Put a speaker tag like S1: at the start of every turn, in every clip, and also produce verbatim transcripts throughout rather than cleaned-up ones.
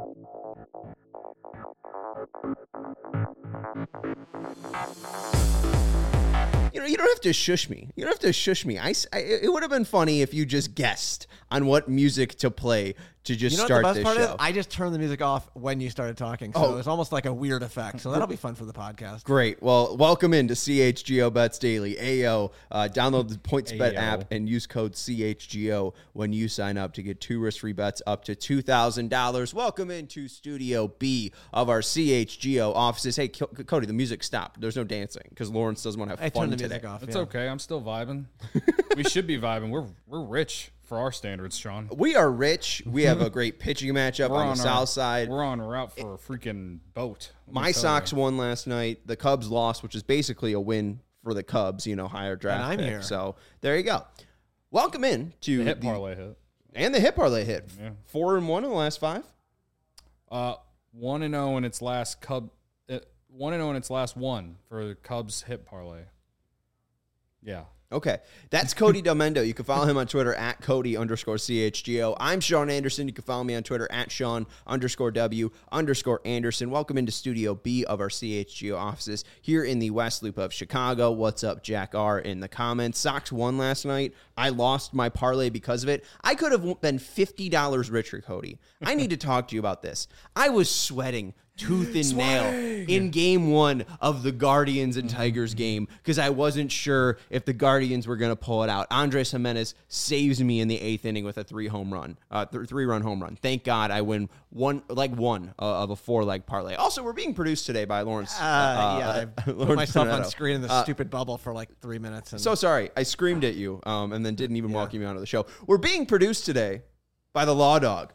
S1: You know, you don't have to shush me. You don't have to shush me. I, I it would have been funny if you just guessed on what music to play to just
S2: you know
S1: start
S2: what the best
S1: this
S2: part
S1: show.
S2: Is? I just turned the music off when you started talking, so
S1: Oh.
S2: it's almost like a weird effect. So that'll be fun for the podcast.
S1: Great. Well, welcome into C H G O Bets Daily. A O, uh, download the PointsBet
S3: Ayo.
S1: app and use code C H G O when you sign up to get two risk-free bets up to two thousand dollars. Welcome into Studio B of our C H G O offices. Hey, Co- Cody, the music stopped. There's no dancing because Lawrence doesn't want to have
S2: I
S1: fun
S2: turned the
S1: today.
S2: music off.
S3: It's
S2: yeah.
S3: okay. I'm still vibing. We should be vibing. We're we're rich for our standards, Sean.
S1: We are rich. We have a great pitching matchup
S3: We're
S1: on the
S3: on
S1: south
S3: our,
S1: side.
S3: We're on route for a freaking boat. Let me
S1: My
S3: tell
S1: Sox
S3: you.
S1: won last night. The Cubs lost, which is basically a win for the Cubs, you know, higher draft
S2: And I'm
S1: pick.
S2: here.
S1: So there you go. Welcome in to
S3: The hit
S1: the-
S3: parlay hit.
S1: and the hit parlay hit.
S3: Yeah.
S1: Four and one in the last five.
S3: Uh, one and zero in its last Cub. Uh, one and zero in its last one for the Cubs hit parlay. Yeah.
S1: Okay. That's Cody Delmendo. You can follow him on Twitter at Cody underscore C H G O. I'm Sean Anderson. You can follow me on Twitter at Sean underscore W underscore Anderson. Welcome into Studio B of our C H G O offices here in the West Loop of Chicago. What's up, Jack R in the comments. Sox won last night. I lost my parlay because of it. I could have been fifty dollars richer, Cody. I need to talk to you about this. I was sweating tooth and nail in game one of the Guardians and Tigers game because I wasn't sure if the Guardians were going to pull it out. Andres Jimenez saves me in the eighth inning with a three home run, uh, th- three run home run. Thank God I win one, like one uh, of a four leg parlay. Also, we're being produced today by Lawrence.
S2: Uh, yeah, I put
S1: Lawrence
S2: myself on
S1: Donato.
S2: screen in the
S1: Uh,
S2: stupid bubble for like three minutes. And
S1: So sorry, I screamed at you um, and then didn't even welcome you onto the show. We're being produced today by the Law Dog.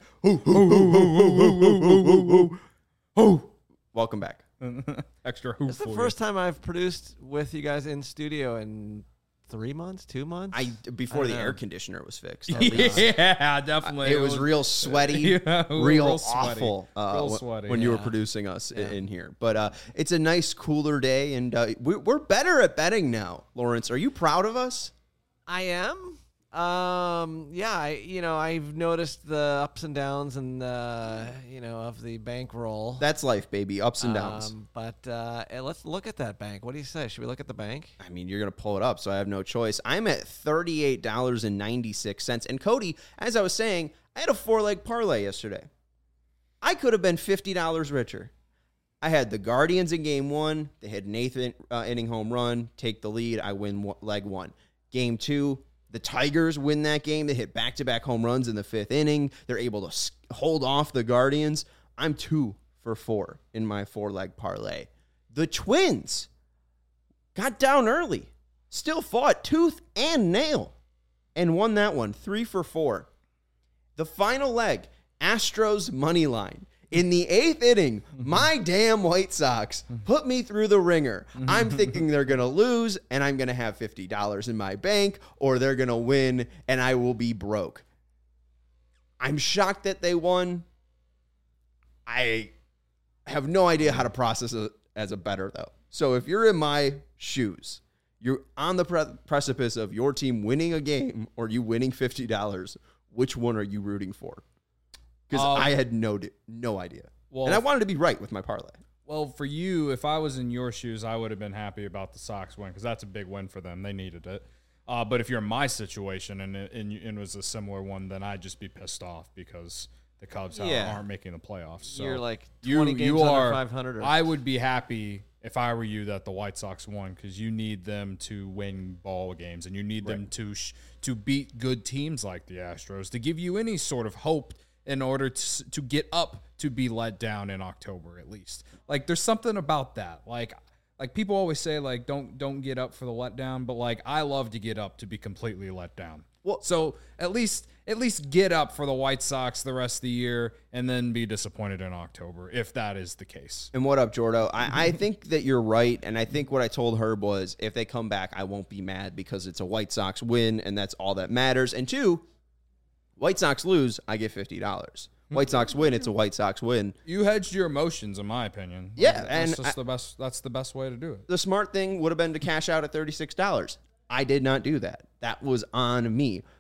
S1: Welcome back.
S3: Extra hoop.
S2: it's the
S3: for
S2: first time I've produced with you guys in studio in three months, two months.
S1: I before
S2: I
S1: the
S2: don't know.
S1: air conditioner was fixed.
S3: you.
S1: at least.
S3: Yeah, definitely.
S1: It was real sweaty,
S3: Yeah,
S1: real,
S3: real sweaty.
S1: awful uh,
S3: Real
S1: wh-
S3: sweaty.
S1: when you were
S2: Yeah.
S1: producing us i-
S2: Yeah.
S1: in here. But uh, it's a nice, cooler day, and uh, we, we're better at betting now. Lawrence, are you proud of us?
S2: I am. Um. Yeah. I. You know. I've noticed the ups and downs and uh. You know of the bankroll.
S1: That's life, baby. Ups and downs.
S2: Um, but uh, eh, let's look at that bank. What do you say? Should we look at the bank?
S1: I mean, you're going to pull it up, so I have no choice. I'm at thirty-eight dollars and ninety-six cents. And Cody, as I was saying, I had a four-leg parlay yesterday. I could have been fifty dollars richer. I had the Guardians in game one. They had an eighth in, uh, inning home run, take the lead. I win one, leg one. Game two, the Tigers win that game. They hit back-to-back home runs in the fifth inning. They're able to s- hold off the Guardians. I'm two for four in my four-leg parlay. The Twins got down early, still fought tooth and nail, and won that one, three for four. The final leg, Astros money line. In the eighth inning, my damn White Sox put me through the ringer. I'm thinking they're going to lose, and I'm going to have fifty dollars in my bank, or they're going to win, and I will be broke. I'm shocked that they won. I have no idea how to process it as a bettor, though. So if you're in my shoes, you're on the pre- precipice of your team winning a game or you winning fifty dollars, which one are you rooting for? Because
S3: Um,
S1: I had no di- no idea.
S3: Well,
S1: and I wanted to be right with my parlay.
S3: Well, for you, if I was in your shoes, I would have been happy about the Sox win because that's a big win for them. They needed it. Uh, but if you're in my situation and it, and it was a similar one, then I'd just be pissed off because the Cubs
S2: Yeah.
S3: aren't making the playoffs. So
S2: You're like
S3: you,
S2: twenty games
S3: you
S2: under
S3: are,
S2: five hundred. Or,
S3: I would be happy if I were you that the White Sox won because you need them to win ball games and you need them to sh- to beat good teams like the Astros to give you any sort of hope in order to to get up to be let down in October at least. Like there's something about that. Like like people always say like don't don't get up for the letdown, but like I love to get up to be completely let down.
S1: Well,
S3: So at least at least get up for the White Sox the rest of the year and then be disappointed in October if that is the case.
S1: And what up, Jordo? I, I think that you're right, and I think what I told Herb was if they come back, I won't be mad because it's a White Sox win, and that's all that matters. And two, White Sox lose, I get fifty dollars. White Sox win, it's a White Sox win.
S3: You hedged your emotions, in my opinion.
S1: Yeah,
S3: that's
S1: and
S3: just
S1: I-
S3: the best. That's the best way to do it.
S1: The smart thing would have been to cash out at thirty-six dollars. I did not do that. That was on me.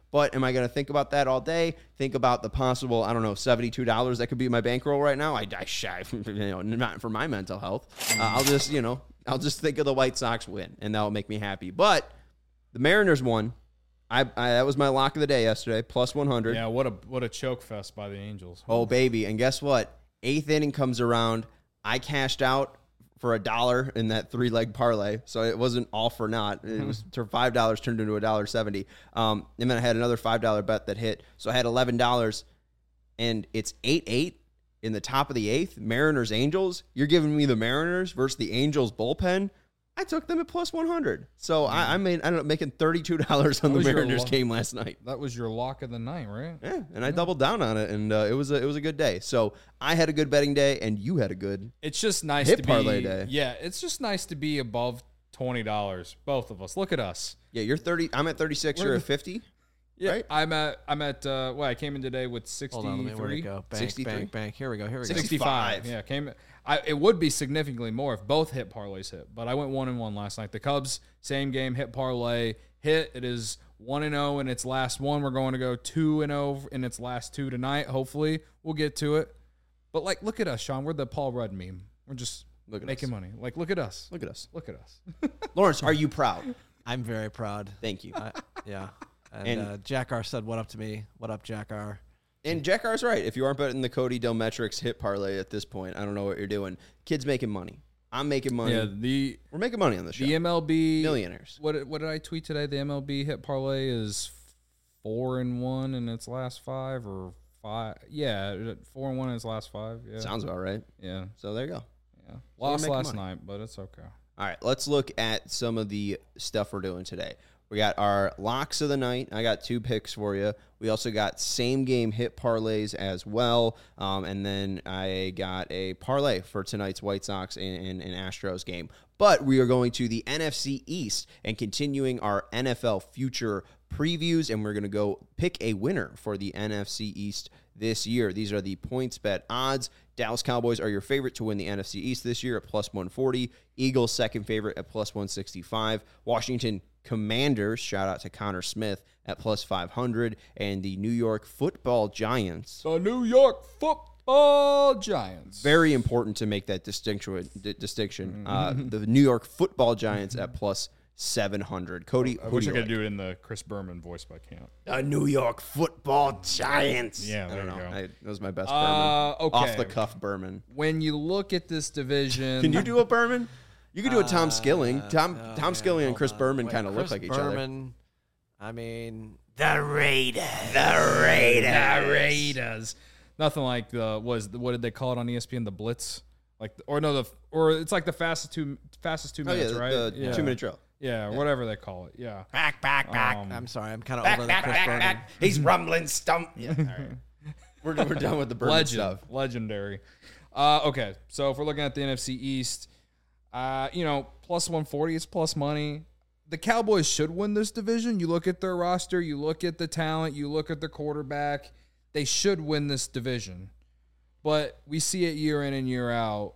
S1: But am I going to think about that all day? Think about the possible, I don't know, seventy-two dollars that could be my bankroll right now? I, I shy, you know, not for my mental health. Uh, I'll just, you know, I'll just think of the White Sox win, and that'll make me happy. But the Mariners won. I, I that was my lock of the day yesterday, plus one hundred.
S3: Yeah, what a what a choke fest by the Angels.
S1: Oh, baby. And guess what? Eighth inning comes around. I cashed out for a dollar in that three-leg parlay, so it wasn't all for naught. It was for five dollars turned into a dollar seventy. Um, and then I had another five dollar bet that hit, so I had eleven dollars, and it's eight eight in the top of the eighth. Mariners Angels. You're giving me the Mariners versus the Angels bullpen. I took them at plus one hundred, so mm. I, I made I ended up making thirty-two dollars on that the Mariners lo- game last night.
S3: That was your lock of the night, right?
S1: Yeah, and
S3: yeah.
S1: I doubled down on it, and uh, it was a, it was a good day. So I had a good betting day, and you had a good.
S3: It's just nice
S1: hit
S3: to
S1: parlay
S3: be.
S1: Day.
S3: Yeah, it's just nice to be above twenty dollars. Both of us. Look at us.
S1: Yeah, you're thirty. I'm at thirty-six. We're you're at fifty.
S3: Yeah,
S1: right?
S3: I'm at I'm at. Uh, well, I came in today with sixty-three.
S2: Hold on, let me, where'd it go? Bank,
S1: sixty-three.
S2: bank, bank. Here we go. Here we go.
S3: sixty-five. Yeah, came. I, it would be significantly more if both hit parlays hit, but I went one and one last night. The Cubs, same game, hit parlay, hit. It is one and zero in its last one. We're going to go two and zero in its last two tonight. Hopefully, we'll get to it. But like, look at us, Sean. We're the Paul Rudd meme. We're just
S1: look at
S3: making
S1: us.
S3: money. Like, look at us.
S1: Look at us.
S3: Look at us.
S1: Lawrence, are you proud?
S2: I'm very proud.
S1: Thank you.
S2: I, yeah. And,
S1: And-
S2: uh, Jack R said, "What up to me? What up, Jack R?"
S1: And Jack R's right. If you aren't betting the Cody Delmetrics hit parlay at this point, I don't know what you're doing. Kid's making money. I'm making money.
S3: Yeah, the
S1: We're making money on the show.
S3: the M L B
S1: Millionaires.
S3: What what did I tweet today? The M L B hit parlay is four and one in its last five, or five. Yeah, four and one in its last five. Yeah,
S1: Sounds about right.
S3: yeah,
S1: So there you go.
S3: yeah.
S1: we're
S3: Lost
S1: making
S3: last
S1: money.
S3: night, but it's okay.
S1: All right, let's look at some of the stuff we're doing today. We got our locks of the night. I got two picks for you. We also got same game hit parlays as well. Um, and then I got a parlay for tonight's White Sox and, and, and Astros game. But we are going to the N F C East and continuing our N F L future previews. And we're going to go pick a winner for the N F C East this year. These are the points bet odds. Dallas Cowboys are your favorite to win the N F C East this year at plus one forty. Eagles second favorite at plus one sixty-five. Washington Commanders, shout out to Connor Smith, at plus five hundred. And the New York Football Giants.
S3: The New York Football Giants.
S1: Very important to make that distinction. D- distinction. Uh, the New York Football Giants at plus seven hundred. Cody,
S3: I
S1: who
S3: wish
S1: do
S3: I
S1: you
S3: could
S1: like?
S3: do it in the Chris Berman voice, but I can't.
S1: The New York Football Giants.
S3: Yeah,
S1: I
S3: there
S1: don't
S3: you
S1: know.
S3: go.
S1: I, that was my best
S3: Uh,
S1: Berman.
S3: okay.
S1: Off the cuff Berman.
S3: When you look at this division,
S1: Can you do a Berman? You could do a Tom
S2: Uh,
S1: Skilling. Tom
S2: oh,
S1: Tom
S2: man,
S1: Skilling and
S2: hold
S1: Chris
S2: on.
S1: Berman
S2: Wait,
S1: kind of look
S2: Chris
S1: like each
S2: Berman, I mean,
S1: other. The Raiders. The Raiders.
S3: The Raiders. Nothing like the was what did they call it on E S P N? The Blitz, like or no the or it's like the fastest two fastest two
S1: Oh yeah,
S3: minutes,
S1: the,
S3: right?
S1: the
S3: yeah.
S1: two minute drill.
S3: Yeah, whatever they call it. Yeah.
S1: Back, back, back.
S3: Um,
S2: I'm sorry, I'm kind of
S1: back,
S2: over
S1: back,
S2: the Chris
S1: back,
S2: Berman.
S1: back. He's rumbling stump. Yeah, all right. We're, we're done with the Berman
S3: Legend,
S1: stuff.
S3: legendary. Uh, okay, so if we're looking at the N F C East, uh, you know, plus one forty is plus money. The Cowboys should win this division. You look at their roster, you look at the talent, you look at the quarterback. They should win this division. But we see it year in and year out.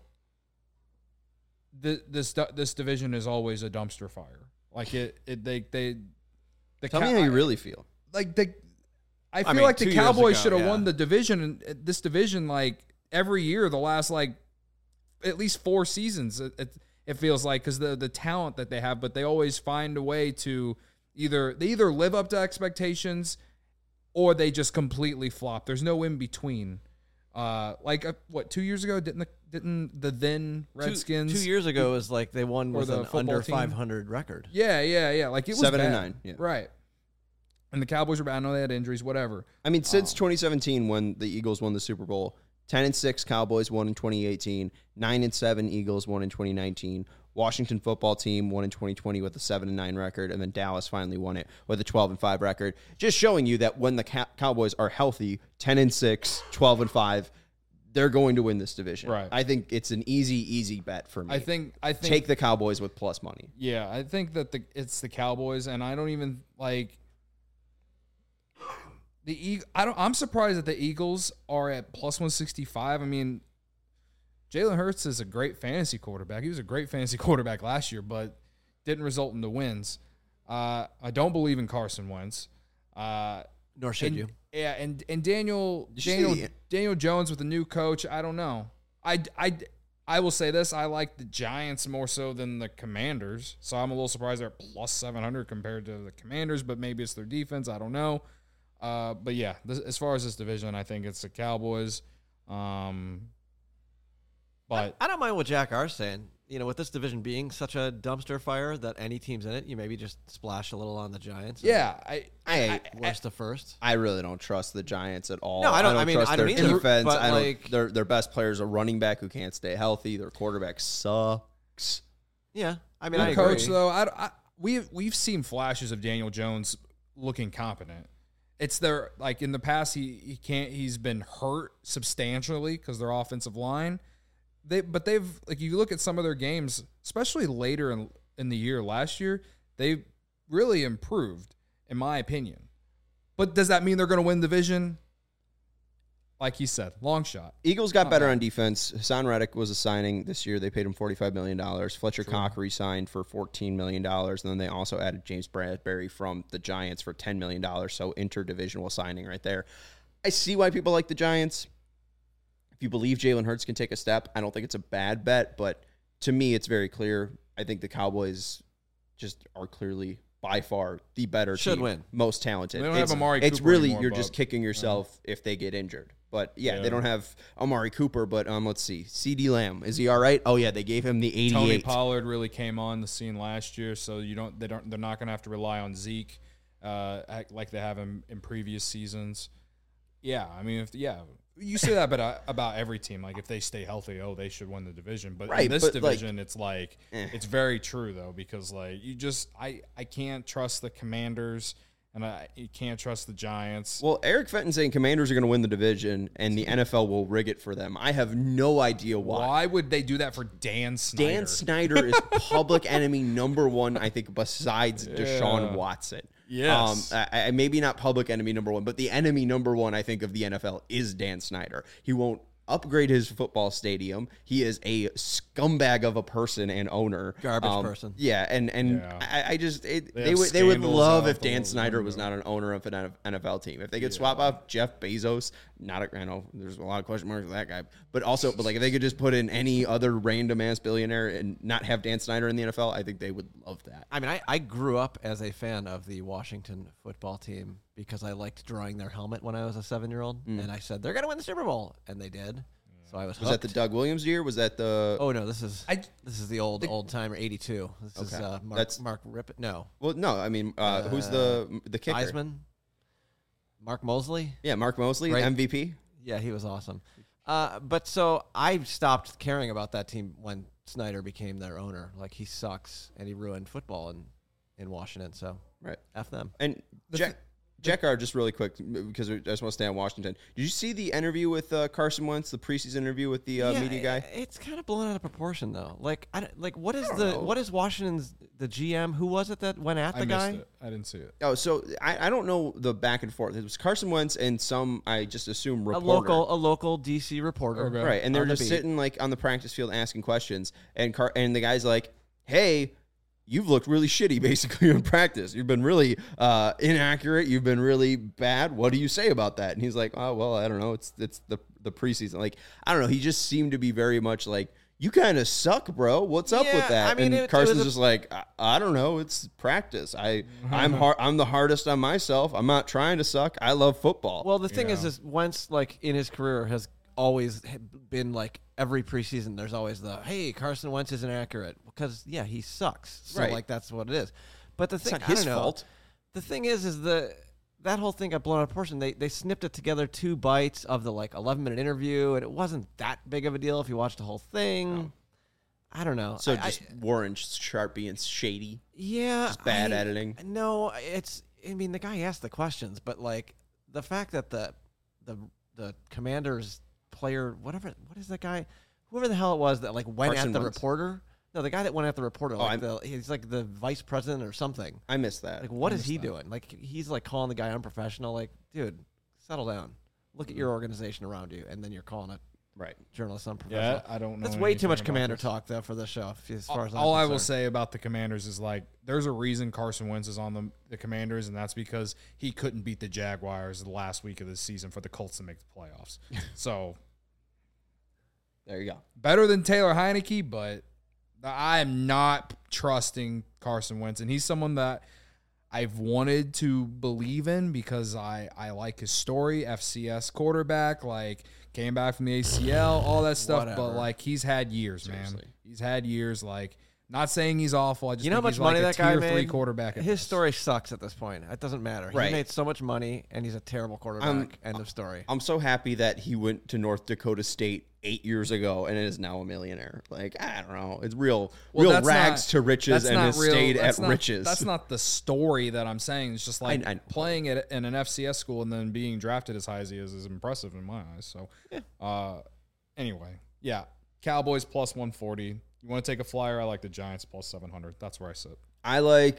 S3: The, this this division is always a dumpster fire. Like it, it they they. The
S1: Tell
S3: Cow-
S1: me how you really feel.
S3: like the. I feel
S2: mean,
S3: like the
S2: two years
S3: Cowboys
S2: ago,
S3: should have
S2: yeah.
S3: won the division. And this division, like every year, the last like at least four seasons. It, it, it feels like because the the talent that they have, but they always find a way to either they either live up to expectations or they just completely flop. There's no in between. Uh, like uh, what two years ago didn't the didn't the then Redskins
S2: Two, two years ago was like they won
S3: Or
S2: with
S3: the
S2: an
S3: football
S2: under
S3: team.
S2: five hundred record.
S3: Yeah, yeah, yeah. Like it was
S1: Seven and
S3: bad.
S1: nine, yeah.
S3: Right. And the Cowboys were bad. I know they had injuries, whatever.
S1: I mean, since twenty seventeen, when the Eagles won the Super Bowl, ten and six Cowboys won in twenty eighteen, nine and seven Eagles won in twenty nineteen. Washington football team won in twenty twenty with a seven and nine record, and then Dallas finally won it with a twelve and five record. Just showing you that when the Cow- Cowboys are healthy, ten and six, twelve and five, they're going to win this division.
S3: Right.
S1: I think it's an easy, easy bet for me.
S3: I think I think
S1: Take the Cowboys with plus money.
S3: Yeah, I think that the it's the Cowboys, and I don't even like the Eag- I don't. I'm surprised that the Eagles are at plus one sixty five. I mean, Jalen Hurts is a great fantasy quarterback. He was a great fantasy quarterback last year, but didn't result in the wins. Uh, I don't believe in Carson Wentz. Uh,
S2: Nor should
S3: and,
S2: you.
S3: Yeah, and and Daniel
S1: Did you
S3: Daniel
S1: see-
S3: Daniel Jones with the new coach. I don't know. I, I, I will say this: I like the Giants more so than the Commanders. So I'm a little surprised they're plus seven hundred compared to the Commanders. But maybe it's their defense. I don't know. Uh, but yeah, this, as far as this division, I think it's the Cowboys. Um, but
S2: I, I don't mind what Jack R's saying. You know, with this division being such a dumpster fire that any team's in it, you maybe just splash a little on the Giants. and
S3: yeah, I,
S1: I,
S3: I,
S2: worst to first.
S1: I really don't trust the Giants at all.
S2: No, I don't- I mean,
S1: trust
S2: I don't
S1: their
S2: either,
S1: defense.
S2: but,
S1: I don't,
S2: like-
S1: their their best players are running back who can't stay healthy. Their quarterback sucks.
S2: Yeah, I mean,
S3: Good
S2: I
S3: coach
S2: agree.
S3: though. I, I we've we've seen flashes of Daniel Jones looking competent. It's their like in the past he he can't he's been hurt substantially because their offensive line. They but they've like you look at some of their games, especially later in in the year last year, they really improved in my opinion. But does that mean they're going to win the division? Like he said, long shot.
S1: Eagles got
S3: Not
S1: better
S3: bad.
S1: on defense. Hassan Reddick was a signing this year. They paid him forty-five million dollars. Fletcher Cox re-signed for fourteen million dollars. And then they also added James Bradbury from the Giants for ten million dollars. So interdivisional signing right there. I see why people like the Giants. If you believe Jalen Hurts can take a step, I don't think it's a bad bet. But to me, it's very clear. I think the Cowboys just are clearly by far the better
S2: Should
S1: team,
S2: win.
S1: most talented.
S3: They don't have
S1: it's,
S3: Amari
S1: It's
S3: Cooper
S1: really
S3: anymore,
S1: you're
S3: Bob.
S1: just kicking yourself if they get injured. But yeah,
S3: Yeah.
S1: they don't have Amari Cooper. But um, let's see, CeeDee Lamb, is he all right? Oh yeah, they gave him the
S3: Tony
S1: eighty-eight.
S3: Pollard really came on the scene last year, so you don't they don't they're not going to have to rely on Zeke uh, act like they have in, in previous seasons. Yeah, I mean, if yeah, you say that about about every team. Like if they stay healthy, oh, they should win the division. But
S1: Right,
S3: in this
S1: but, like,
S3: division, it's like
S1: eh.
S3: it's very true though because like you just I I can't trust the Commanders and I you can't trust the Giants.
S1: Well, Eric Fenton saying Commanders are going to win the division and the N F L will rig it for them. I have no idea why.
S3: Why would they do that for Dan Snyder?
S1: Dan Snyder is public enemy number one, I think, besides Deshaun
S3: Yeah.
S1: Watson.
S3: Yes.
S1: Um, I, I, maybe not public enemy number one, but the enemy number one, I think, of the N F L is Dan Snyder. He won't upgrade his football stadium. He is a scumbag of a person and owner.
S2: Garbage
S1: Um,
S2: person.
S1: Yeah, and and
S3: Yeah.
S1: I, I just it,
S3: They
S1: they
S3: have
S1: would they would
S3: scandals
S1: love
S3: out
S1: if Dan
S3: the
S1: Snyder was
S3: window.
S1: not an owner of an N F L team. If they could swap out Jeff Bezos, not a, I know there's a lot of question marks with that guy, but also but like if they could just put in any other random ass billionaire and not have Dan Snyder in the N F L, I think they would love that.
S2: I mean, I, I grew up as a fan of the Washington football team because I liked drawing their helmet when I was a seven-year-old, and I said they're gonna win the Super Bowl, and they did. So I was.
S1: Was that the
S2: hooked.
S1: Doug Williams year? Was that the
S2: Oh no, this is
S3: I-
S2: this is the old old timer eighty-two. This is
S1: Okay.
S2: uh, Mark
S1: That's-
S2: Mark Rippet. No,
S1: Well, no, I mean, uh, who's the the kicker?
S2: Heisman. Mark Mosley.
S1: Yeah, Mark Mosley,
S2: Right.
S1: M V P.
S2: Yeah, he was awesome. Uh, but so I stopped caring about that team when Snyder became their owner. Like he sucks and he ruined football in, in Washington. So
S1: Right.
S2: F them.
S1: And Jack, Jack R, just really quick, because I just want to stay on Washington. Did you see the interview with uh, Carson Wentz, the preseason interview with the uh,
S2: Yeah,
S1: media guy?
S2: i- It's kind of blown out of proportion though. Like, I don't- like what is
S1: don't
S2: the
S1: know.
S2: what is Washington's the G M? Who was it that went at
S3: I
S2: the
S3: missed
S2: guy?
S3: it. I didn't see it.
S1: Oh, so I, I don't know the back and forth. It was Carson Wentz and some, I just assume,
S2: A
S1: reporter.
S2: local a local D C reporter.
S3: Okay.
S1: Right, and they're
S2: on the
S1: just
S2: beat.
S1: sitting like on the practice field asking questions, and Car- and the guy's like, "Hey, you've looked really shitty basically in practice. You've been really uh, inaccurate. You've been really bad. What do you say about that?" And he's like, "Oh well, I don't know. It's it's the the preseason. Like I don't know. He just seemed to be very much like." You kind of suck, bro. What's up
S2: Yeah,
S1: with that?
S2: I mean,
S1: and
S2: it- it was
S1: Carson's
S2: a-
S1: just like, I, I don't know. It's practice. I, I'm hard. I'm the hardest on myself. I'm not trying to suck. I love football.
S2: Well, the thing is,
S3: Yeah.
S2: is Wentz like in his career has always been like every preseason. There's always the hey Carson Wentz is inaccurate because yeah he sucks. So
S1: Right.
S2: like that's what it is. But the
S1: it's
S2: thing
S1: not
S2: I
S1: his
S2: don't know,
S1: fault.
S2: The thing is, is the that whole thing got blown out of proportion. They they snipped it together two bites of the like eleven minute interview, and it wasn't that big of a deal if you watched the whole thing. I don't know.
S1: So
S2: I-
S1: just
S2: I,
S1: Warren Sharp being shady.
S2: yeah,
S1: just bad
S2: I-
S1: editing.
S2: No, it's. I mean, the guy asked the questions, but like the fact that the the the Commanders player, whatever, what is that guy? Whoever the hell it was that like went
S1: Carson
S2: at the
S1: Wentz?
S2: reporter. No, the guy that went at the reporter. Like
S1: I'm-
S2: the, he's like the vice president or something.
S1: I missed that.
S2: Like, what
S3: I
S2: is
S3: missed
S2: he
S3: that.
S2: doing? Like, he's like calling the guy unprofessional. Like, dude, settle down. Look at your organization around you, and then you're calling it
S1: Right.
S2: journalist on professional.
S3: Yeah, I don't know.
S2: That's way too much
S3: anything about
S2: Commander
S3: this.
S2: talk, though, for the show. As far as I'm
S3: All I will
S2: concerned.
S3: say about the Commanders is like, there's a reason Carson Wentz is on the, the Commanders, and that's because he couldn't beat the Jaguars the last week of the season for the Colts to make the playoffs. So
S1: There you go.
S3: better than Taylor Heineke, but I am not trusting Carson Wentz, and he's someone that I've wanted to believe in because I, I like his story, F C S quarterback, like came back from the A C L, all that stuff.
S2: Whatever.
S3: But like he's had years,
S1: Seriously.
S3: man. He's had years. Like not saying he's awful. I just
S2: You know how
S3: think
S2: much
S3: he's
S2: money
S3: like
S2: that
S3: a
S2: guy
S3: tier
S2: made?
S3: three quarterback. at
S2: His
S3: best.
S2: story sucks at this point. It doesn't matter.
S1: Right.
S2: He made so much money, and he's a terrible quarterback.
S1: Um,
S2: End of story.
S1: I'm so happy that he went to North Dakota State eight years ago and is now a millionaire. Like, I don't know. It's real,
S3: Well,
S1: real
S3: that's
S1: rags
S3: not-
S1: to riches
S3: that's
S1: and
S3: not
S1: has
S3: real-
S1: stayed at
S3: that's not-
S1: riches.
S3: That's not the story that I'm saying. It's just like
S1: I- I-
S3: playing it in an F C S school and then being drafted as high as he is is impressive in my eyes. So, uh, anyway, yeah, Cowboys plus one forty. You want to take a flyer? I like the Giants plus seven hundred. That's where I sit.
S1: I like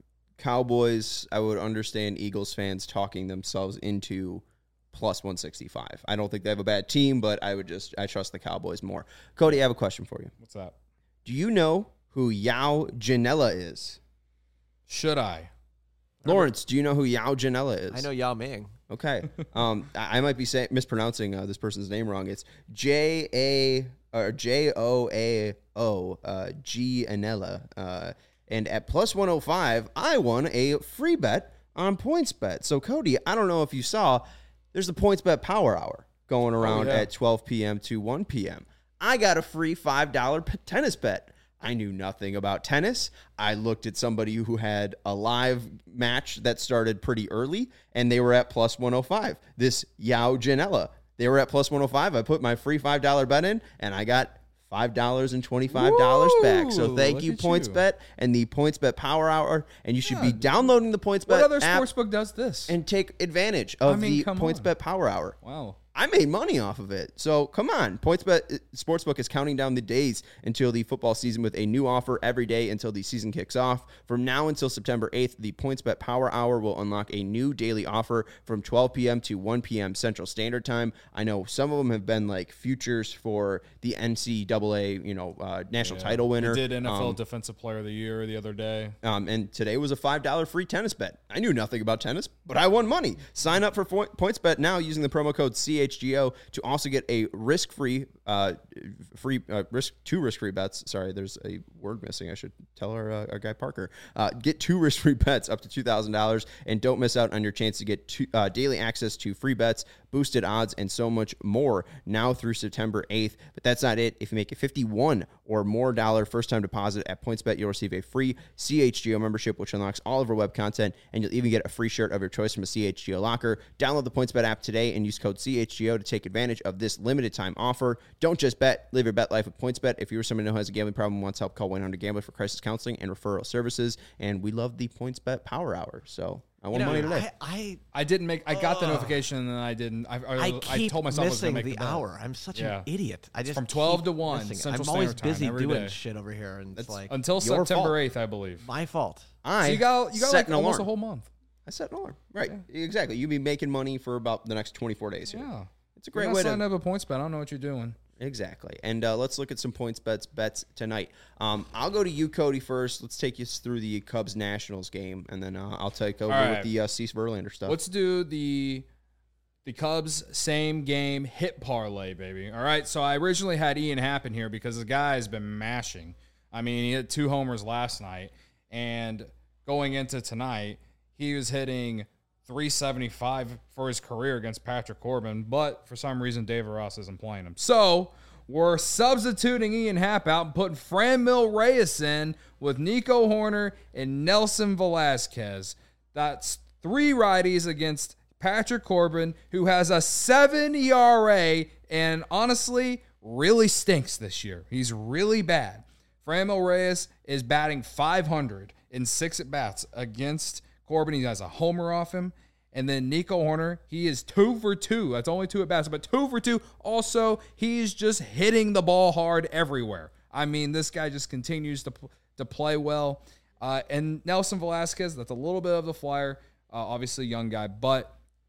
S1: Cowboys. I would understand Eagles fans talking themselves into plus one sixty-five. I don't think they have a bad team, but I would just, I trust the Cowboys more. Cody, I have a question for you.
S3: What's that?
S1: Do you know who Yao Janela is?
S3: Should I?
S1: Lawrence, do you know who Yao Janela is?
S2: I know Yao Ming.
S1: Okay. Um, I I might be say, mispronouncing uh, this person's name wrong. It's J A or J O A O uh, G Anella. Uh, and at plus one oh five, I won a free bet on PointsBet. So Cody, I don't know if you saw, there's the PointsBet Power Hour going around
S3: yeah.
S1: at twelve p.m. to one p.m. I got a free five dollars p- tennis bet. I knew nothing about tennis. I looked at somebody who had a live match that started pretty early, and they were at plus one oh five. This Yao Janela, they were at plus one oh five. I put my free five dollars bet in, and I got five dollars and twenty-five dollars back. So
S3: Woo!
S1: thank
S3: Look
S1: you,
S3: at you.
S1: PointsBet, and the PointsBet Power Hour. And you should be
S3: Yeah.
S1: downloading the PointsBet
S3: What other
S1: app
S3: sportsbook does this?
S1: and take advantage of
S3: I mean,
S1: the
S3: come on.
S1: PointsBet Power Hour.
S3: Wow.
S1: I made money off of it. So come on. PointsBet uh, Sportsbook is counting down the days until the football season with a new offer every day until the season kicks off. From now until September eighth, the PointsBet Power Hour will unlock a new daily offer from twelve p.m. to one p.m. Central Standard Time. I know some of them have been like futures for the N C double A, you know, uh, national title winner.
S3: He did N F L
S1: Um,
S3: Defensive Player of the Year the other day.
S1: Um, and today was a five dollars free tennis bet. I knew nothing about tennis, but I won money. Sign up for Fo- PointsBet now using the promo code C H G O to also get a risk-free, uh, free uh, risk two risk-free bets. Sorry, there's a word missing. I should tell our, uh, our guy Parker. Uh, get two risk-free bets up to two thousand dollars, and don't miss out on your chance to get two, uh, daily access to free bets, boosted odds, and so much more now through September eighth. But that's not it. If you make a fifty-one or more dollar first-time deposit at PointsBet, you'll receive a free C H G O membership, which unlocks all of our web content, and you'll even get a free shirt of your choice from a C H G O locker. Download the PointsBet app today and use code C H G O to take advantage of this limited time offer. Don't just bet, live your bet life with PointsBet. If you're someone who has a gambling problem and wants help, call one eight hundred gambler for crisis counseling and referral services. And we love the PointsBet Power Hour. So I won
S2: You know,
S1: money today.
S2: I,
S3: I didn't make. I got the notification and then I didn't. I, I,
S2: I, I
S3: I
S2: keep
S3: told myself I was
S2: missing
S3: going to make
S2: the
S3: the bet.
S2: hour. I'm such
S3: Yeah.
S2: an idiot. I just
S3: from twelve
S2: keep
S3: to one
S2: missing it.
S3: Central
S2: I'm always
S3: Standard Time
S2: busy
S3: every
S2: doing
S3: day.
S2: shit over here, and it's like
S3: Until
S1: Your
S3: September
S1: fault.
S3: eighth, I believe.
S2: my fault.
S1: I
S3: So you got you got
S1: set
S3: like
S1: an
S3: almost
S1: alarm.
S3: a whole month.
S1: I set an alarm. Right. Exactly. You'll be making money for about the next twenty-four days here.
S3: Yeah,
S1: It's a
S3: You're
S1: great
S3: not
S1: way
S3: signing
S1: to...
S3: up a points bet. I don't know what you're doing.
S1: Exactly. And uh, let's look at some points bets bets tonight. Um, I'll go to you, Cody, first. Let's take you through the Cubs Nationals game, and then uh, I'll take over
S3: All right.
S1: with the uh, Cease Verlander stuff.
S3: Let's do the the Cubs same game hit parlay, baby. All right. So I originally had Ian Happ in here because the guy has been mashing. I mean, he hit two homers last night, and going into tonight, he was hitting three seventy-five for his career against Patrick Corbin, but for some reason, David Ross isn't playing him. So we're substituting Ian Happ out and putting Franmil Reyes in with Nico Horner and Nelson Velasquez. That's three righties against Patrick Corbin, who has a seven E R A and honestly really stinks this year. He's really bad. Franmil Reyes is batting five hundred in six at-bats against Corbin. He has a homer off him. And then Nico Horner, he is two for two. That's only two at-bats, but two for two. Also, he's just hitting the ball hard everywhere. I mean, this guy just continues to, to play well. Uh, and Nelson Velasquez, that's a little bit of the flyer. Uh, obviously, young guy, but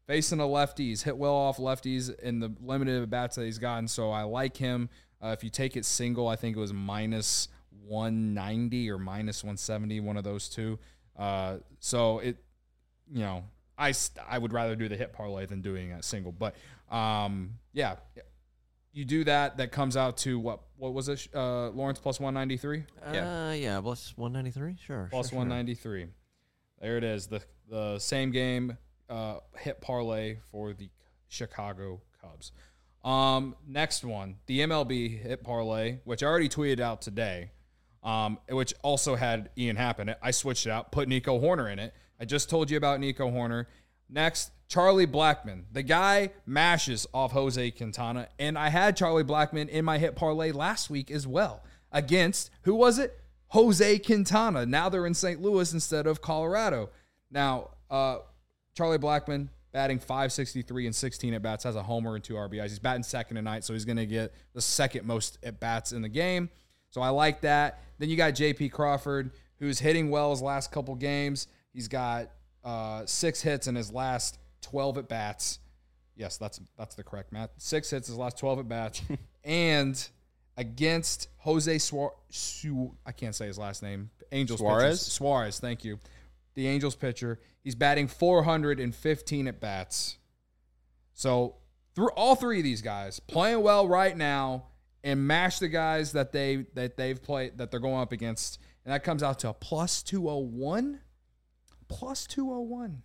S3: facing a lefty. He's hit well off lefties in the limited at bats that he's gotten, so I like him. Uh, if you take it single, I think it was minus one ninety or minus one seventy, one of those two. Uh, so it, you know, I, I would rather do the hit parlay than doing a single. But um, yeah, you do that. That comes out to what? What was it, uh, Lawrence? Plus one ninety-three.
S2: Yeah, uh, yeah, plus one ninety-three. Sure,
S3: plus
S2: sure,
S3: one ninety-three. Sure. There it is. The the same game uh, hit parlay for the Chicago Cubs. Um, next one, the M L B hit parlay, which I already tweeted out today. Um, which also had Ian Happ in it. I switched it out, put Nico Horner in it. I just told you about Nico Horner. Next, Charlie Blackmon. The guy mashes off Jose Quintana, and I had Charlie Blackmon in my hit parlay last week as well against, who was it? Jose Quintana. Now they're in Saint Louis instead of Colorado. Now, uh, Charlie Blackmon batting five sixty-three and sixteen at-bats, has a homer and two R B Is. He's batting second tonight, so he's going to get the second most at-bats in the game. So I like that. Then you got J P Crawford, who's hitting well his last couple games. He's got uh, six hits in his last twelve at-bats. Yes, that's that's the correct math. Six hits his last twelve at-bats. And against Jose Suarez, Su- I can't say his last name. Angels
S1: Suarez?
S3: pitcher. Suarez, thank you. The Angels pitcher. He's batting four hundred fifteen at-bats. So through all three of these guys, playing well right now, and mash the guys that they that they've played that they're going up against, and that comes out to a plus two oh one. Plus two oh one.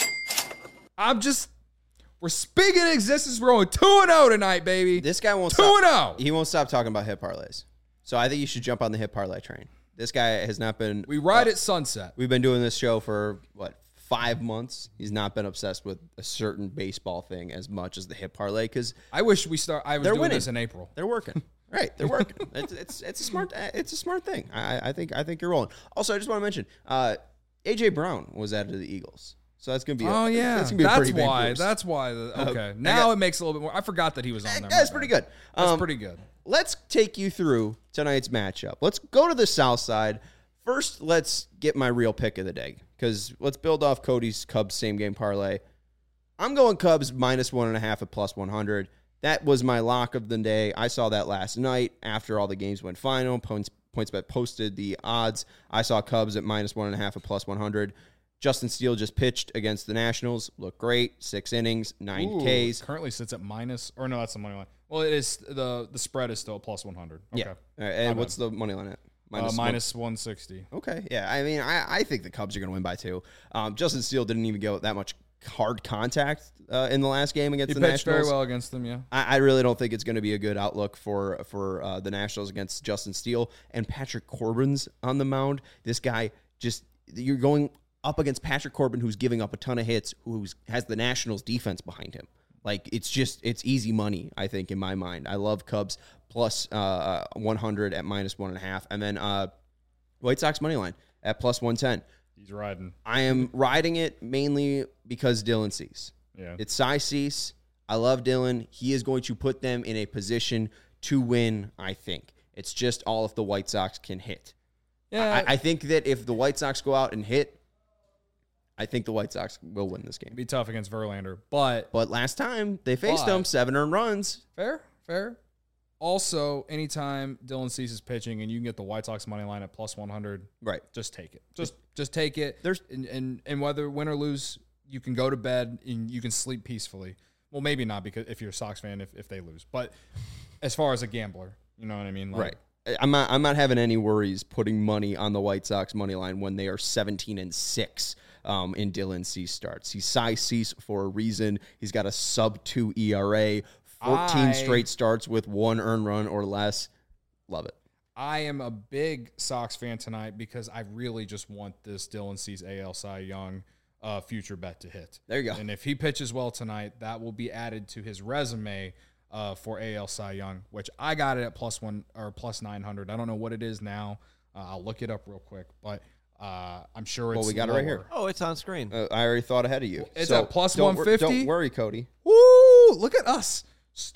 S3: I'm just we're speaking in existence. We're going two and oh tonight, baby.
S1: This guy won't
S3: two
S1: stop.
S3: and oh.
S1: He won't stop talking about hit parlays. So I think you should jump on the hit parlay train. This guy has not been.
S3: We ride
S1: uh,
S3: at sunset.
S1: We've been doing this show for what five months. He's not been obsessed with a certain baseball thing as much as the hit parlay because
S3: I wish we start. I was
S1: They're
S3: doing
S1: winning.
S3: this in April.
S1: they're working. Right, they're working. it's, it's it's a smart it's a smart thing. I, I think I think you're rolling. Also, I just want to mention, uh, A J Brown was added to the Eagles, so that's gonna be. A,
S3: Oh yeah,
S1: that's, gonna be a
S3: that's
S1: pretty big
S3: why.
S1: boost.
S3: That's why. The, okay,
S1: Uh,
S3: now
S1: got-
S3: it makes a little bit more. I forgot that he was on there.
S1: That's
S3: My
S1: pretty
S3: bad.
S1: good.
S3: That's
S1: Um,
S3: pretty good.
S1: Let's take you through tonight's matchup. Let's go to the South Side. First, let's get my real pick of the day because let's build off Cody's Cubs same game parlay. I'm going Cubs minus one and a half at plus one hundred. That was my lock of the day. I saw that last night after all the games went final. Points PointsBet posted the odds. I saw Cubs at minus one and a half at plus one hundred. Justin Steele just pitched against the Nationals. Looked great. Six innings, nine
S3: Ooh,
S1: Ks.
S3: Currently sits at minus, or no, that's the money line. Well, it is the the spread is still plus one hundred. Okay.
S1: Yeah. All right, and what's the money line at?
S3: Minus, uh,
S1: one-
S3: minus one sixty.
S1: Okay, yeah. I mean, I, I think the Cubs are going to win by two. Um, Justin Steele didn't even get that much hard contact uh, in the last game against
S3: He
S1: the
S3: pitched
S1: Nationals.
S3: very well against them, yeah.
S1: I, I really don't think it's going to be a good outlook for for uh, the Nationals against Justin Steele and Patrick Corbin's on the mound. This guy just you're going up against Patrick Corbin, who's giving up a ton of hits, who has the Nationals defense behind him. Like it's just it's easy money, I think, in my mind. I love Cubs plus uh, one hundred at minus one and a half, and then uh, White Sox money line at plus one ten.
S3: He's riding.
S1: I am riding it mainly because Dylan Cease.
S3: Yeah.
S1: It's Cy Cease. I love Dylan. He is going to put them in a position to win, I think. It's just all if the White Sox can hit.
S3: Yeah.
S1: I, I think that if the White Sox go out and hit, I think the White Sox will win this game.
S3: It'd be tough against Verlander, but
S1: But last time they faced
S3: But-
S1: them, seven earned runs.
S3: fair, fair. Also, anytime Dylan Cease is pitching and you can get the White Sox money line at plus one hundred,
S1: Right.
S3: just take it. Just just take it.
S1: There's-
S3: and, and and whether win or lose, you can go to bed and you can sleep peacefully. Well, maybe not because if you're a Sox fan, if, if they lose. But as far as a gambler, you know what I mean? Like,
S1: Right. I'm not I'm not having any worries putting money on the White Sox money line when they are seventeen and six um, in Dylan Cease starts. He's Cy Cease for a reason. He's got a sub two E R A, fourteen
S3: I-
S1: straight starts with one earned run or less. Love it.
S3: I am a big Sox fan tonight because I really just want this Dylan Cease A L Cy Young uh, future bet to hit.
S1: There you go.
S3: And if he pitches well tonight, that will be added to his resume uh, for A L Cy Young, which I got it at plus one or plus nine hundred. I don't know what it is now. Uh, I'll look it up real quick, but uh, I'm sure it's
S1: Well, we got it right
S3: lower.
S1: here.
S2: Oh, it's on screen.
S1: Uh, I already thought ahead of you.
S3: It's
S1: So
S3: at plus
S1: don't wor-
S3: one fifty?
S1: Don't worry, Cody.
S3: Woo! Look at us. Start.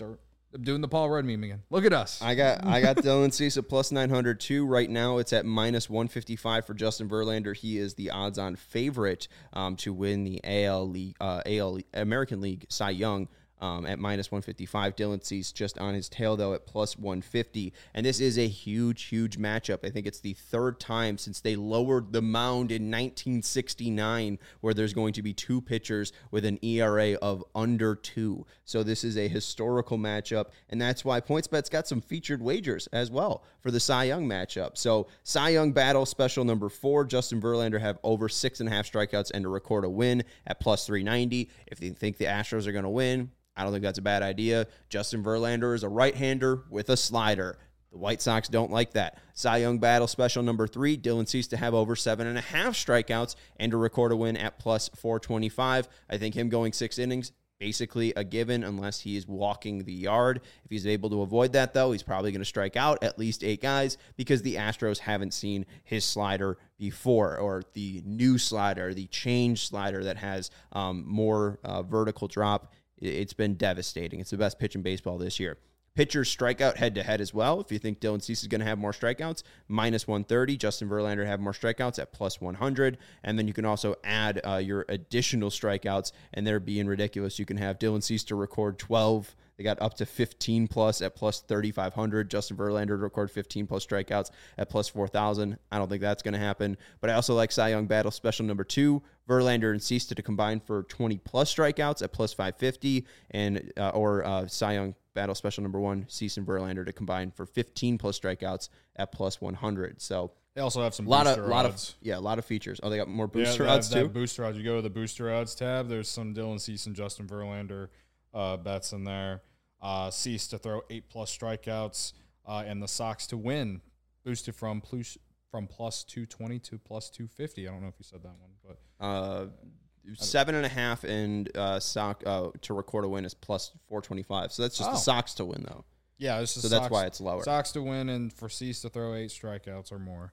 S3: I'm doing the Paul Rudd meme again. Look at us.
S1: I got I got Dylan Cease at plus nine hundred too. Right now it's at minus one fifty-five for Justin Verlander. He is the odds-on favorite um, to win the A L League, uh, A L American League Cy Young. Um, at minus one fifty-five. Dylan Cease just on his tail, though, at plus one fifty. And this is a huge, huge matchup. I think it's the third time since they lowered the mound in nineteen sixty-nine where there's going to be two pitchers with an E R A of under two. So this is a historical matchup, and that's why PointsBet's got some featured wagers as well for the Cy Young matchup. So Cy Young battle special number four, Justin Verlander have over six and a half strikeouts and to record a win at plus three ninety. If they think the Astros are going to win, I don't think that's a bad idea. Justin Verlander is a right-hander with a slider. The White Sox don't like that. Cy Young battle special number three, Dylan Cease to have over seven and a half strikeouts and to record a win at plus four twenty-five. I think him going six innings, basically a given unless he is walking the yard. If he's able to avoid that, though, he's probably going to strike out at least eight guys because the Astros haven't seen his slider before, or the new slider, the change slider that has um, more uh, vertical drop. It's been devastating. It's the best pitch in baseball this year. Pitchers strike out head-to-head as well. If you think Dylan Cease is going to have more strikeouts, minus one thirty. Justin Verlander have more strikeouts at plus one hundred. And then you can also add uh, your additional strikeouts, and they're being ridiculous. You can have Dylan Cease to record twelve. They got up to fifteen plus at plus thirty-five hundred. Justin Verlander to record fifteen plus strikeouts at plus four thousand. I don't think that's going to happen. But I also like Cy Young battle special number two, Verlander and Cease to combine for twenty plus strikeouts at plus five fifty, and uh, or uh, Cy Young battle special number one, Cease and Verlander to combine for fifteen plus strikeouts at plus one hundred. So
S3: they also have some
S1: lot
S3: booster
S1: of, lot
S3: odds.
S1: of yeah, a lot of features. Oh, they got more
S3: Yeah,
S1: booster
S3: that,
S1: odds
S3: that
S1: too.
S3: Booster odds. You go to the booster odds tab. There's some Dylan Cease and Justin Verlander uh, bets in there. Uh, Cease to throw eight plus strikeouts, uh, and the Sox to win, boosted from plus from plus two twenty to plus two fifty. I don't know if you said that one, but
S1: uh, seven and a half and uh, Sox uh, to record a win is plus four twenty five. So that's just
S3: Oh.
S1: the Sox to win though.
S3: yeah, this is
S1: So that's why it's lower.
S3: Sox to win and for Cease to throw eight strikeouts or more.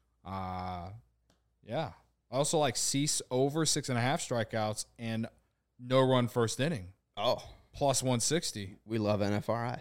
S3: Uh yeah. I also like Cease over six and a half strikeouts and no run first inning.
S1: Oh,
S3: Plus one sixty.
S1: we love N F R I.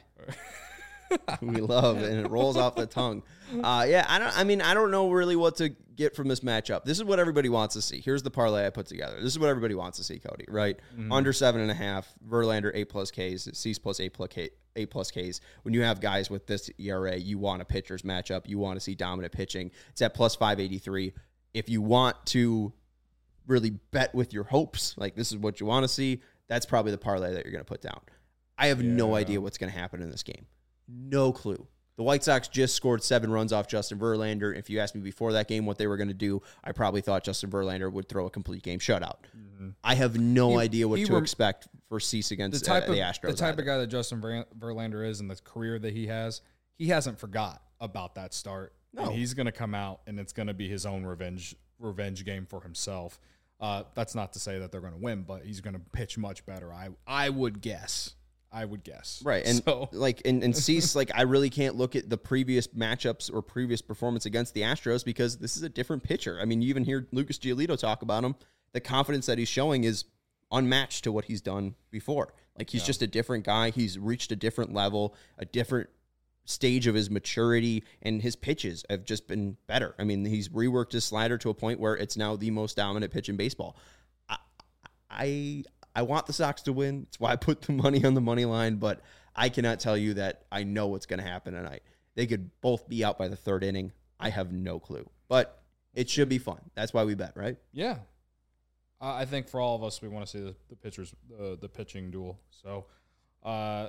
S1: We love it, and it rolls off the tongue. Uh, yeah, I don't. I mean, I don't know really what to get from this matchup. This is what everybody wants to see. Here's the parlay I put together. This is what everybody wants to see, Cody. Right?
S3: Mm-hmm.
S1: Under seven and a half. Verlander eight plus Ks. Cease plus eight plus K. Eight plus Ks. When you have guys with this E R A, you want a pitcher's matchup. You want to see dominant pitching. It's at plus five eighty three. If you want to really bet with your hopes, like this is what you want to see, that's probably the parlay that you're going to put down. I have no
S3: Yeah.
S1: idea what's going to happen in this game. No clue. The White Sox just scored seven runs off Justin Verlander. If you asked me before that game what they were going to do, I probably thought Justin Verlander would throw a complete game shutout. Mm-hmm. I have no
S3: He-
S1: idea what
S3: he
S1: to
S3: rem-
S1: expect for Cease
S3: The
S1: against
S3: type
S1: uh,
S3: of
S1: the Astros.
S3: the type
S1: either.
S3: of guy that Justin Ver- Verlander is and the career that he has, he hasn't forgot about that start.
S1: No.
S3: And he's going to come out and it's going to be his own revenge revenge game for himself. Uh, that's not to say that they're going to win, but he's going to pitch much better. I I would guess. I would guess.
S1: Right. And
S3: So-
S1: like and, and Cease, like I really can't look at the previous matchups or previous performance against the Astros because this is a different pitcher. I mean, you even hear Lucas Giolito talk about him. The confidence that he's showing is unmatched to what he's done before. Like he's
S3: Yeah.
S1: just a different guy. He's reached a different level, a different stage of his maturity, and his pitches have just been better. I mean, he's reworked his slider to a point where it's now the most dominant pitch in baseball. I I, I want the Sox to win. That's why I put the money on the money line, but I cannot tell you that I know what's going to happen tonight. They could both be out by the third inning. I have no clue, but it should be fun. That's why we bet, right?
S3: Yeah. Uh, I think for all of us, we want to see the, the pitchers, uh, the pitching duel. So, uh,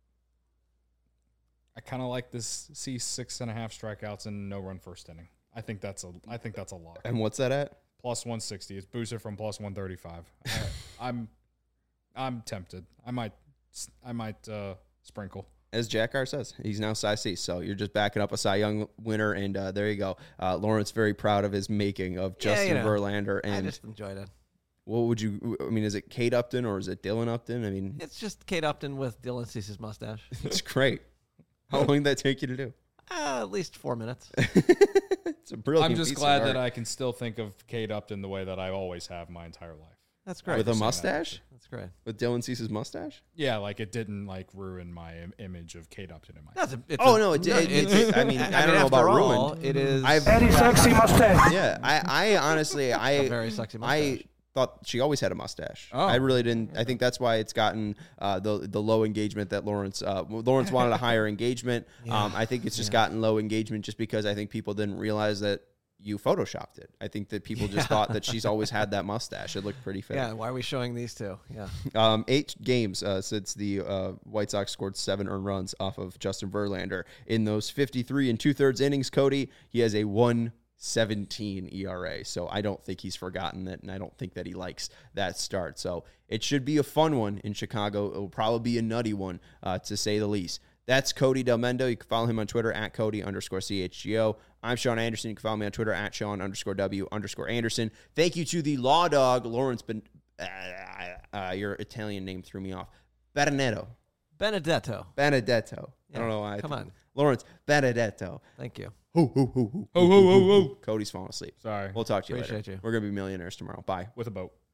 S3: I kind of like this. See six and a half strikeouts and no run first inning. I think that's a. I think that's a lot.
S1: And what's that at?
S3: Plus one sixty. It's boosted from plus one thirty five. I'm, I'm tempted. I might, I might uh, sprinkle.
S1: As Jack Carr says, he's now Cy Cease. So you're just backing up a Cy Young winner, and uh, there you go. Uh, Lawrence very proud of his making of
S2: Yeah,
S1: Justin
S2: you know,
S1: Verlander.
S2: I
S1: And
S2: just enjoyed it.
S1: what would you? I mean, is it Kate Upton or is it Dylan Upton? I mean,
S2: It's just Kate Upton with Dylan Cease's mustache.
S1: it's great. How long did that take you to do?
S2: Uh, at least four minutes.
S1: It's a brilliant.
S3: I'm just
S1: piece of
S3: glad
S1: art.
S3: that I can still think of Kate Upton the way that I always have my entire life.
S2: That's great.
S1: With a
S3: saying that.
S1: mustache?
S2: That's great.
S1: With Dylan Cease's mustache?
S3: Yeah, like it didn't like ruin my Im- image of Kate Upton in my.
S2: That's a, it's
S1: Oh,
S2: a,
S1: no, it did. It,
S2: it's-
S1: it, I mean, I,
S2: I
S1: don't
S2: mean,
S1: know about
S2: after all,
S1: ruined.
S2: It is
S1: I've,
S4: Very sexy mustache.
S1: yeah, I, I honestly, I,
S2: a very sexy mustache.
S1: I thought she always had a mustache.
S3: Oh.
S1: I really didn't. I think that's why it's gotten uh, the the low engagement that Lawrence uh, Lawrence wanted a higher engagement. Um, I think it's just gotten low engagement just because I think people didn't realize that you photoshopped it. I think that people just thought that she's always had that mustache. It looked pretty fake.
S2: yeah, why are we showing these two? Yeah.
S1: Um, eight games uh, since the uh, White Sox scored seven earned runs off of Justin Verlander. In those fifty-three and two-thirds innings, Cody, he has a one seventeen E R A. So I don't think he's forgotten it, and I don't think that he likes that start. So it should be a fun one in Chicago. It will probably be a nutty one, uh, to say the least. That's Cody Delmendo. You can follow him on Twitter at Cody underscore C H G O. I'm Sean Anderson. You can follow me on Twitter at Sean underscore W underscore Anderson. Thank you to the Law Dog, Lawrence Ben... Uh, uh, your Italian name threw me off. Benedetto.
S2: Benedetto.
S1: Benedetto.
S2: Yeah,
S1: I don't know why. I
S2: come
S1: think-
S2: on.
S1: Lawrence Benedetto.
S2: Thank you.
S1: Hoo, hoo, hoo, hoo,
S3: Oh, oh, oh, oh.
S1: Cody's falling asleep.
S3: Sorry.
S1: We'll talk to you
S2: Appreciate
S1: later.
S2: you.
S1: We're going to be millionaires tomorrow. Bye.
S3: With a boat.